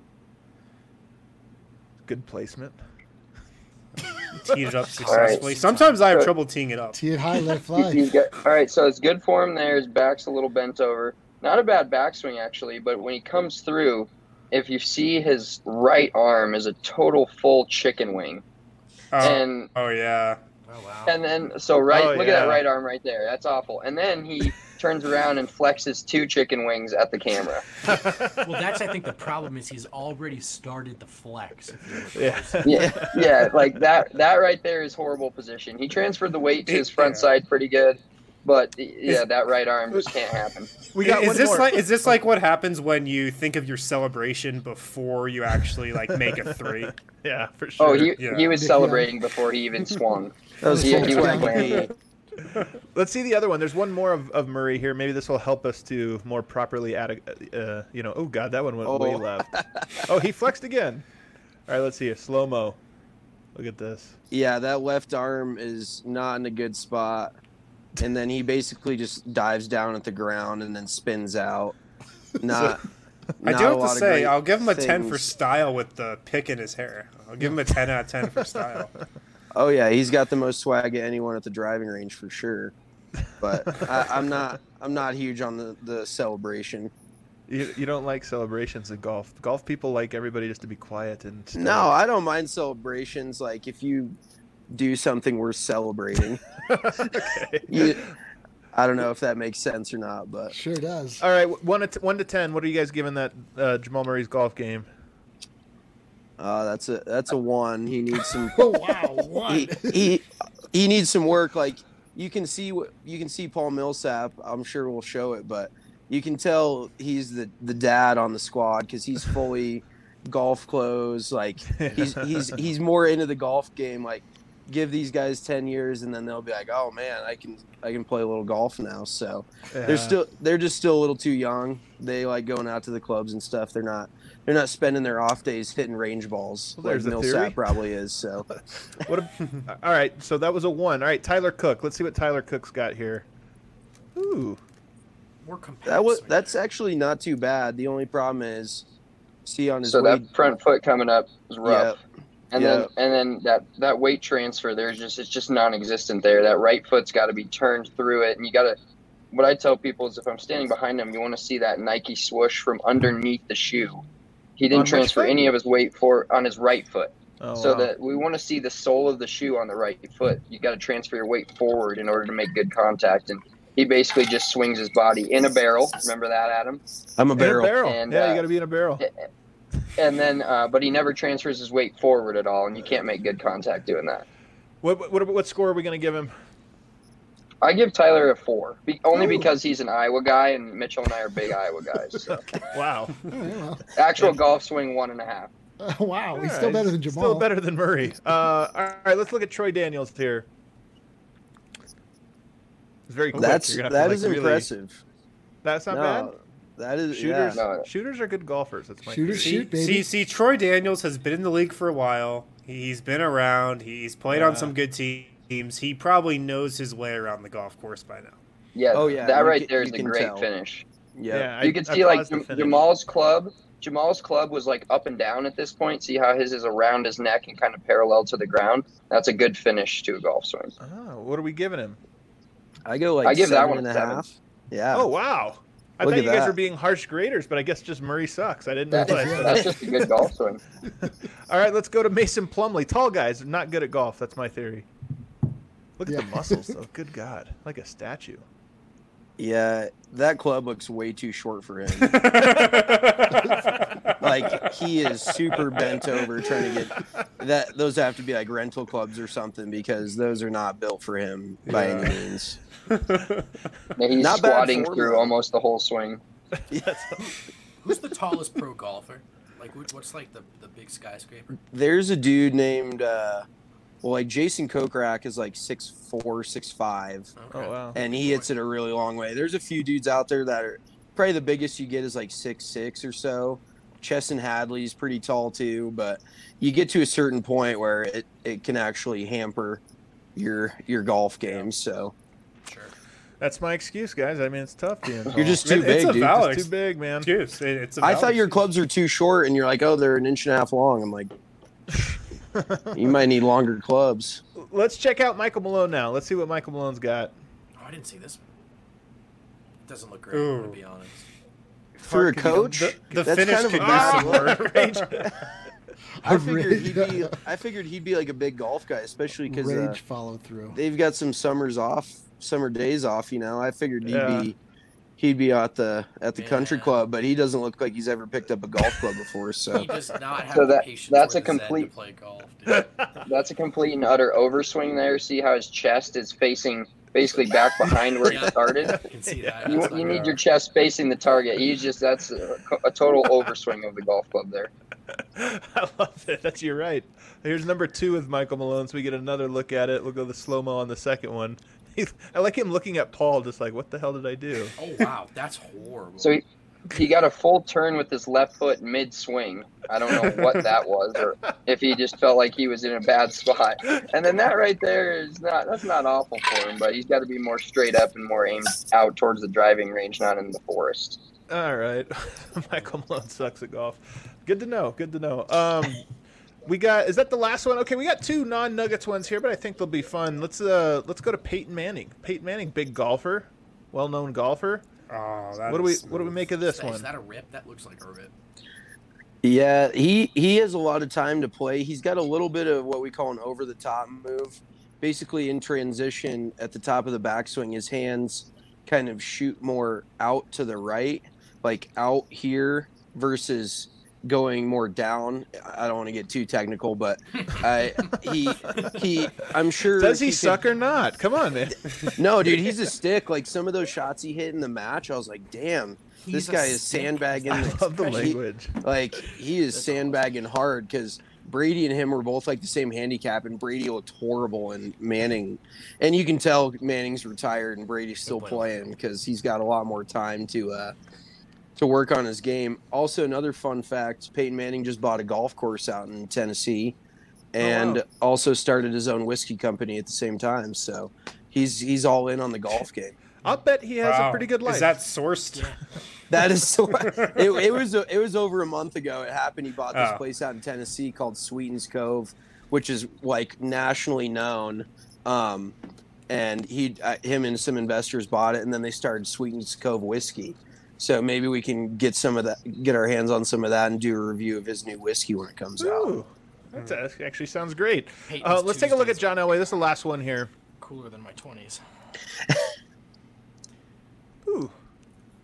Good placement. Teed it up successfully. Sometimes I have trouble teeing it up. Tee it high, let it fly. All right, so it's good form there. His back's a little bent over. Not a bad backswing, actually, but when he comes through, if you see his right arm is a total full chicken wing. And Oh yeah. Oh, wow. and then look at yeah. that right arm right there. That's awful. And then he turns around and flexes 2 chicken wings at the camera. Well, that's, I think, the problem is he's already started the flex. If you Yeah. Yeah, like that right there is horrible position. He transferred the weight to his front side pretty good, but yeah, that right arm just can't happen. We got Is one this more. is this like what happens when you think of your celebration before you actually like make a 3? Yeah, for sure. Oh, he Yeah. was celebrating before he even swung. That was He full was swing. playing. Let's see the other one. There's one more of Murray here. Maybe this will help us to more properly add oh, God, that one went way left. Oh, he flexed again. All right, let's see it. Slow-mo. Look at this. Yeah, that left arm is not in a good spot. And then he basically just dives down at the ground and then spins out. Not. I not do a have lot to of say, great I'll give him a 10 for things. style with the pick in his hair. I'll give him a 10 out of 10 for style. Oh yeah, he's got the most swag of anyone at the driving range for sure. But I'm not huge on the celebration. You don't like celebrations in golf. Golf people like everybody just to be quiet and stay. No, I don't mind celebrations. Like if you do something worth celebrating. Okay. I don't know if that makes sense or not, but Sure does. All right, 1 to 10. What are you guys giving that Jamal Murray's golf game? that's a 1. He needs some. Oh wow, what? he needs some work. Like you can see Paul Millsap. I'm sure we'll show it, but you can tell he's the dad on the squad because he's fully golf clothes. Like he's more into the golf game. Like give these guys 10 years and then they'll be like, oh man, I can play a little golf now. So they're just still a little too young. They like going out to the clubs and stuff. They're not spending their off days hitting range balls Well, there's like a Millsap theory. probably is. So All right, so that was a 1. All right, Tyler Cook. Let's see what Tyler Cook's got here. Ooh. More compact. that's actually not too bad. The only problem is see on his So weight. that front foot coming up is rough. Yeah. And Yeah. then that weight transfer it's just non-existent there. That right foot's got to be turned through it, and you got to. What I tell people is if I'm standing behind him, you want to see that Nike swoosh from underneath the shoe. He On didn't which transfer foot? any of his weight on his right foot. Oh, So wow. that we want to see the sole of the shoe on the right foot. You got to transfer your weight forward in order to make good contact. And he basically just swings his body in a barrel. Remember that, Adam? I'm a In barrel. a barrel. And, Yeah, you got to be in a barrel. And then, but he never transfers his weight forward at all, and you can't make good contact doing that. What score are we going to give him? I give Tyler a 4, only because he's an Iowa guy, and Mitchell and I are big Iowa guys. So. Wow. Actual golf swing 1.5. Wow, he's Yeah, still better than Jamal. Still better than Murray. All right, let's look at Troy Daniels here. It's very quick. That You're gonna have to, is like, really- impressive. That's not No, bad. that is Shooters, No. shooters are good golfers. That's my Shooters theory. shoot, baby. See, Troy Daniels has been in the league for a while. He's been around. He's played on some good teams. He probably knows his way around the golf course by now. Yeah, Oh, yeah, that you right can- there is you a can great tell. finish. Yeah. You can see like Jamal's club. Jamal's club was like up and down at this point. See how his is around his neck and kind of parallel to the ground. That's a good finish to a golf swing. Oh, what are we giving him? I go like I give that 7 one and a a 7. half. Yeah. Oh, wow. I Look thought at you guys that. were being harsh graders, but I guess just Murray sucks. I didn't know that. That's just a good golf swing. All right, let's go to Mason Plumlee. Tall guys are not good at golf. That's my theory. Look at the muscles, though. Good God. Like a statue. Yeah, that club looks way too short for him. Like he is super bent over trying to get that. Those have to be like rental clubs or something because those are not built for him by any means. Yeah, he's Not bad squatting form, through though. almost the whole swing. Who's the tallest pro golfer? Like, what's like the big skyscraper? There's a dude named like Jason Kokrak is like 6'4", 6'5", Okay. Oh, wow. and he hits it a really long way. There's a few dudes out there that are probably the biggest you get is like 6'6" or so. Chesson Hadley's pretty tall too, but you get to a certain point where it can actually hamper your golf game. So Sure. That's my excuse, guys. I mean, it's tough being tall. you're just too big, It's a dude. valid Just too big, man. excuse. It's a I valid thought your excuse. clubs are too short, and you're like, oh, they're an inch and a half long. I'm like, you might need longer clubs. Let's check out Michael Malone now. Let's see what Michael Malone's got. Oh, I didn't see this one. Doesn't look great, I'm Ooh. gonna be honest. For a Can you- coach, The that's finish kind of a could bad use some look. work. I figured he'd be like a big golf guy, especially because Rage follow through. they've got some summer days off. You know, I figured Yeah. he'd be at the country Yeah. club, but he doesn't look like he's ever picked up a golf club before. So He does not have So the that- patience that's or a the zen complete- to play golf, dude. That's a complete and utter overswing there. See how his chest is facing basically back behind where he Yeah. started? I can see that. You, That's not you need good. your chest facing the target. That's a total overswing of the golf club there. I love it. You're right. Here's number 2 with Michael Malone, so we get another look at it. We'll go the slow-mo on the second one. I like him looking at Paul just like, what the hell did I do? Oh wow, that's horrible. So he got a full turn with his left foot mid swing. I don't know what that was, or if he just felt like he was in a bad spot. And then that right there that's not awful for him, but he's got to be more straight up and more aimed out towards the driving range, not in the forest. All right. Michael Malone sucks at golf. Good to know. Good to know. Is that the last one? Okay, we got 2 non-Nuggets ones here, but I think they'll be fun. Let's go to Peyton Manning. Peyton Manning, big golfer, well-known golfer. Oh, that What do we is make of this Is one? that a rip? That looks like a rip. yeah, he has a lot of time to play. He's got a little bit of what we call an over-the-top move. Basically, in transition at the top of the backswing, his hands kind of shoot more out to the right, like out here versus going more down. I don't want to get too technical, but I'm sure. Does he could- suck or not? Come on, man. No, dude, he's a stick. Like some of those shots he hit in the match, I was like, damn, this He's a guy is stick. sandbagging. I love the he- language. Like he is sandbagging hard because Brady and him were both like the same handicap, and Brady looked horrible, and Manning, and you can tell Manning's retired and Brady's still playing because he's got a lot more time to work on his game. Also, another fun fact: Peyton Manning just bought a golf course out in Tennessee, and wow. also started his own whiskey company at the same time. So he's all in on the golf game. I'll bet he has a Wow. pretty good life. Is that sourced? That is so. It was over a month ago. It happened. He bought this Oh. place out in Tennessee called Sweetens Cove, which is like nationally known. And him and some investors bought it, and then they started Sweetens Cove whiskey. So maybe we can get our hands on some of that, and do a review of his new whiskey when it comes out. Ooh, that actually sounds great. Peyton's Let's take a look at Tuesdays. John Elway. This is the last one here. Cooler than my 20s. Ooh.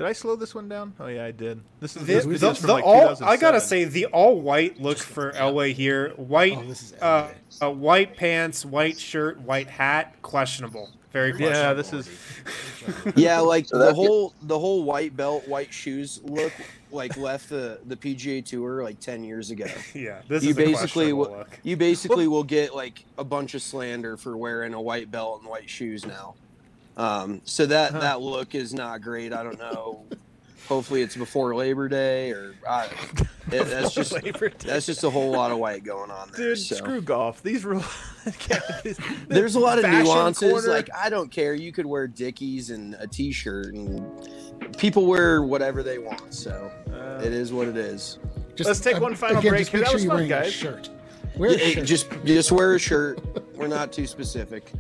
Did I slow this one down? Oh yeah, I did. This is The, this is from like I 2007. gotta say, the all white look for Elway here. White, Oh, this is Elway. White pants, white shirt, white hat. Questionable. Very questionable. Yeah, this is. Yeah, like So the that's whole white belt, white shoes look like left the PGA Tour like 10 years ago. Yeah, this You is a basically questionable will, look. you basically will get like a bunch of slander for wearing a white belt and white shoes now. So that look is not great. I don't know. Hopefully it's before Labor Day that's just a whole lot of white going on there. Dude, so. screw golf. These rules. There's a lot of Fashion nuances. corner. Like I don't care. You could wear Dickies and a T-shirt, and people wear whatever they want. So it is what it is. Let's take one final break Just here. make That sure was you're fun, wearing a guys. shirt. Wear a shirt. Just wear a shirt. We're not too specific.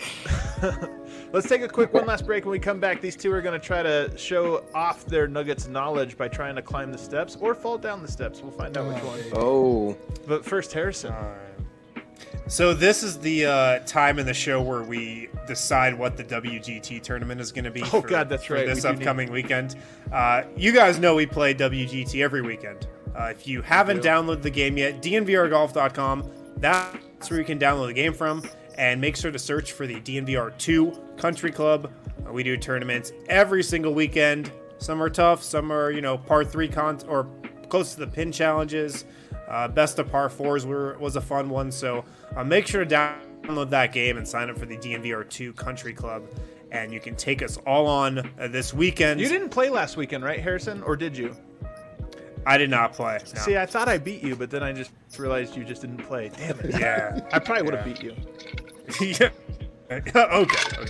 Let's take a quick one last break. When we come back, these two are going to try to show off their Nuggets knowledge by trying to climb the steps or fall down the steps. We'll find out which one. Oh, But first, Harrison. All right. So this is the time in the show where we decide what the WGT tournament is going to be. Oh, God, that's right. For this We do upcoming weekend. You guys know we play WGT every weekend. If you haven't do. downloaded the game yet, dnvrgolf.com. That's where you can download the game from. And make sure to search for the DNVR 2 Country Club. We do tournaments every single weekend. Some are tough, some are, par 3 or close to the pin challenges. Best of par 4s was a fun one. So make sure to download that game and sign up for the DNVR 2 Country Club. And you can take us all on this weekend. You didn't play last weekend, right, Harrison? Or did you? I did not play. No. See, I thought I beat you, but then I just realized you just didn't play. Damn it. Yeah. I probably would have beat you. Yeah. Okay.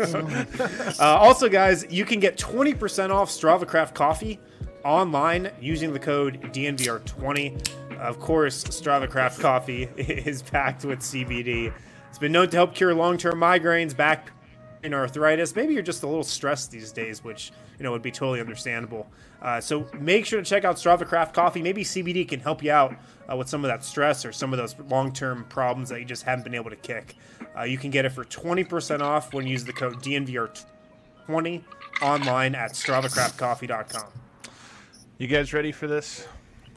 Also, guys, you can get 20% off Strava Craft Coffee online using the code DNVR20. Of course, Strava Craft Coffee is packed with CBD. It's been known to help cure long-term migraines, back pain, arthritis. Maybe you're just a little stressed these days, which would be totally understandable. So make sure to check out Strava Craft Coffee. Maybe CBD can help you out with some of that stress or some of those long-term problems that you just haven't been able to kick. You can get it for 20% off when you use the code DNVR20 online at StravaCraftCoffee.com. You guys ready for this?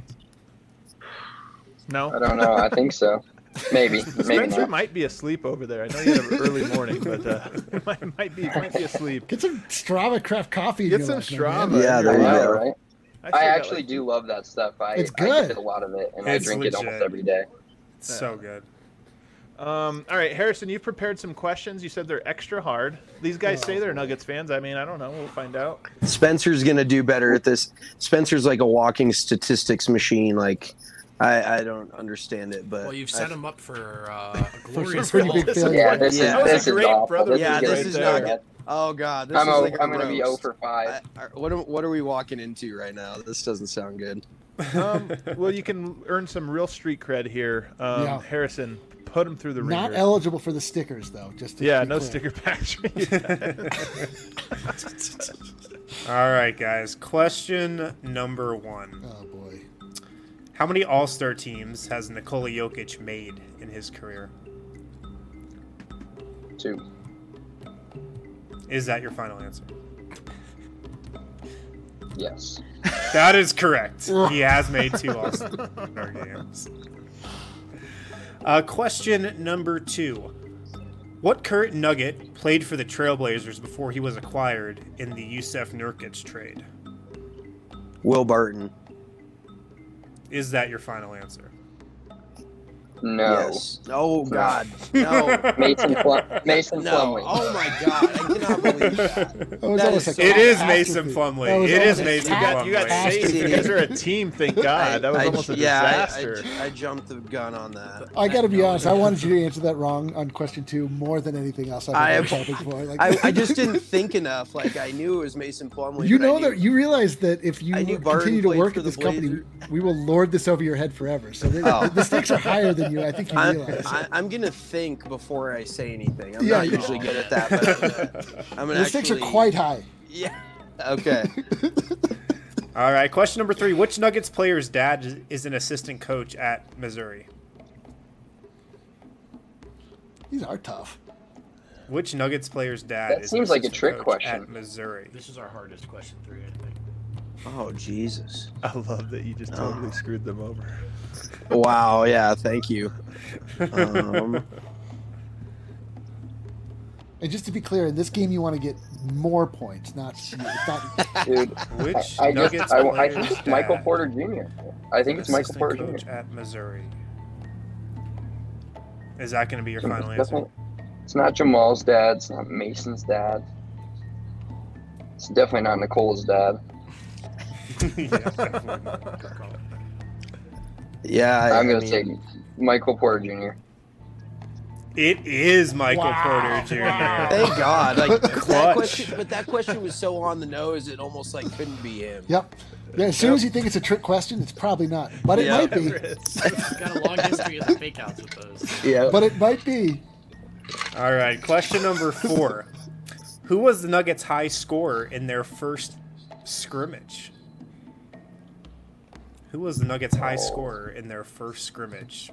No? I don't know. I think so. Maybe Spencer not. might be asleep over there. I know you have an early morning, but might be asleep. Get some Strava Craft Coffee. in Get your some life, man. Strava. Yeah, there I you know, go. right? I I still got, actually like, do love that stuff. It's I good. get a lot of it, and It's I drink it almost legit. every day. It's so good. All right, Harrison, you've prepared some questions. You said they're extra hard. These guys say they're Nuggets fans. I mean, I don't know. We'll find out. Spencer's gonna do better at this. Spencer's like a walking statistics machine. Like I don't understand it, but Well, you've set him up for a glorious pretty fall. big failure. Yeah, this Yeah. That is was a great awful. brother Yeah, gonna this be is so not bad. Oh God, this I'm is like a going to be 0 roast. for 5. What are we walking into right now? This doesn't sound good. Well, you can earn some real street cred here. Yeah. Harrison, put him through the ringer. Not eligible for the stickers though. Just to Yeah, be no clear. sticker packs. All right, guys. Question number 1. Oh boy. How many All-Star teams has Nikola Jokic made in his career? 2. Is that your final answer? Yes. That is correct. He has made 2 All-Star games. Question number 2. What current Nugget played for the Trailblazers before he was acquired in the Yusef Nurkic trade? Will Barton. Is that your final answer? No. Yes. Oh God. No. Mason No. Plumlee. Oh my God. I cannot believe that. That was That almost is like It a is catastrophe. Mason That Plumlee. was It is almost a Mason cat- You got Plumlee. saved. You guys are a team, thank God. That was almost a disaster. I jumped the gun on that. I got to be honest. I wanted you to answer that wrong on question 2 more than anything else I I've have- ever topic for. Like, I just didn't think enough. Like I knew it was Mason Plumlee. you but I know knew- that you realize that if you I knew Barton continue to played work for at the this company, Blazers. we will lord this over your head forever. So the stakes are higher than you. I think you realize. I'm gonna think before I say anything. I'm Yeah, not you- usually good at that, but I'm gonna The stakes are actually- quite high. Yeah. Okay. All right, question number 3. Which Nuggets player's dad is an assistant coach at Missouri? These are tough. Which Nuggets player's dad That is seems an like a assistant trick coach question. at Missouri? This is our hardest question 3, I think. Oh Jesus! I love that you just totally screwed them over. Wow. Yeah. Thank you. And just to be clear, in this game, you want to get more points, not. It's not Dude, Which I Nuggets think player's it's dad Michael Porter Jr. I think it's Michael assistant Porter coach Jr. at Missouri. Is that going to be your final It's answer? definitely- It's not Jamal's dad. It's not Mason's dad. It's definitely not Nicola's dad. Yeah, definitely not. Good call. Yeah. I'm going to say Michael Porter Jr. It is Michael Porter Jr. Thank God. Like that Clutch. question, but that question was so on the nose, it almost like couldn't be him. Yep. Yeah, as soon as you think it's a trick question, it's probably not. But it Yeah. might be. He's got a long history of the fake outs with those. Yeah. But it might be. All right, question number 4. Who was the Nuggets' high scorer in their first scrimmage? Who was the Nuggets' high scorer in their first scrimmage?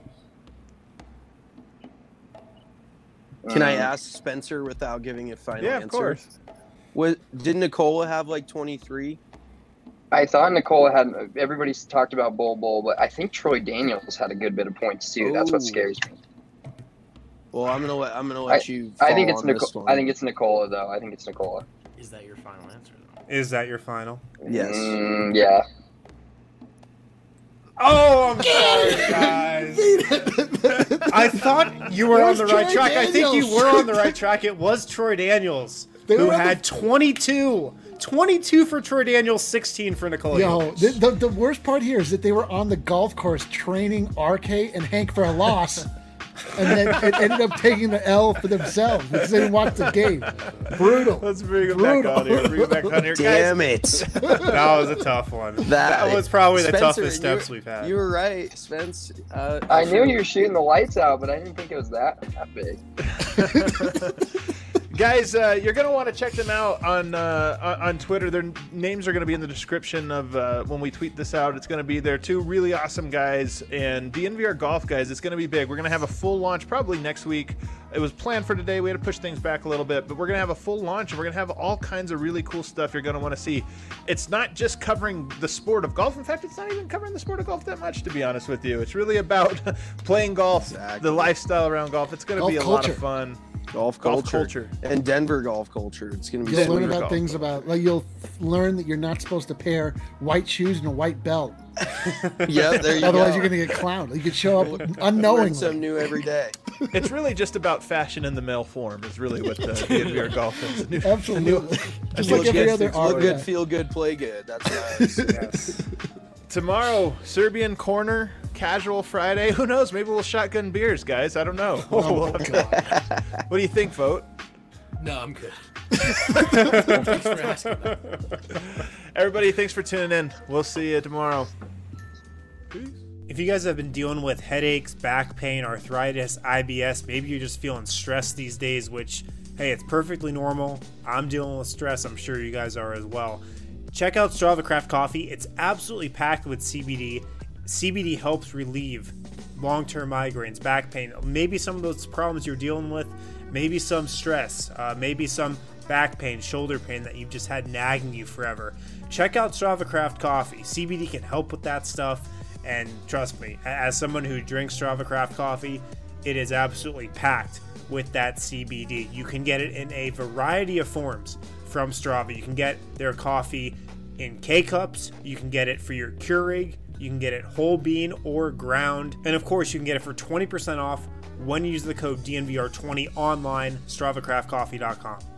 Can I ask Spencer without giving a final Yeah, answer? of course. Did Nicola have like 23? I thought Nicola had. Everybody's talked about Bull, but I think Troy Daniels had a good bit of points too. That's what Ooh. scares me. Well, I'm gonna let you. I think fall it's on this one. I think it's Nicola though. I think it's Nicola. Is that your final answer, though? Is that your final? Yes. Yeah. Oh, I'm sorry, guys. I thought you were It on was the right Troy track. I think you Daniels. were on the right track. It was Troy Daniels, They who were on had 22. 22 for Troy Daniels, 16 for Nikola Yo, Jokic. the worst part here is that they were on the golf course training RK and Hank for a loss. And then it ended up taking the L for themselves because they didn't watch the game. Brutal. Let's bring him back on here. Bring him back on here, Damn guys. it! That was a tough one. That was probably the Spencer, toughest steps we've had. You were right, Spence. I knew you were shooting the lights out, but I didn't think it was that big. Guys, you're gonna want to check them out on Twitter. Their names are gonna be in the description of when we tweet this out. It's gonna be there. 2 really awesome guys, and the NVR Golf guys. It's gonna be big. We're gonna have a full launch probably next week. It was planned for today. We had to push things back a little bit, but we're gonna have a full launch, and we're gonna have all kinds of really cool stuff you're gonna want to see. It's not just covering the sport of golf. In fact, it's not even covering the sport of golf that much, to be honest with you. It's really about playing golf, the lifestyle around golf. It's gonna Golf be a culture. lot of fun. golf Golf culture. culture. And Denver golf culture. It's gonna be You'll sweet. learn about golf. things about, like, you'll learn that you're not supposed to pair white shoes and a white belt. Yeah, there you Otherwise, go. you're going to get clowned. You could show up Learn unknowingly. something new every day. It's really just about fashion in the male form. Is really what the NVR Golf is. Absolutely. Just Look like every good, other look art. good, feel good, play good. That's nice. Yes. Tomorrow, Serbian Corner, Casual Friday. Who knows? Maybe we'll shotgun beers, guys. I don't know. Oh, God. What do you think, Vote? No, I'm good. Thanks for asking that. Everybody, thanks for tuning in. We'll see you tomorrow. If you guys have been dealing with headaches, back pain, arthritis, IBS, maybe you're just feeling stressed these days, which, hey, it's perfectly normal. I'm dealing with stress. I'm sure you guys are as well. Check out Strava Craft Coffee. It's absolutely packed with CBD. CBD helps relieve long-term migraines, back pain, maybe some of those problems you're dealing with, maybe some stress, maybe some back pain, shoulder pain that you've just had nagging you forever. Check out Strava Craft Coffee. CBD can help with that stuff, and trust me, as someone who drinks Strava Craft Coffee, it is absolutely packed with that CBD. You can get it in a variety of forms from Strava. You can get their coffee in K-Cups, you can get it for your Keurig, you can get it whole bean or ground, and of course you can get it for 20% off when you use the code DNVR20 online, StravaCraftCoffee.com.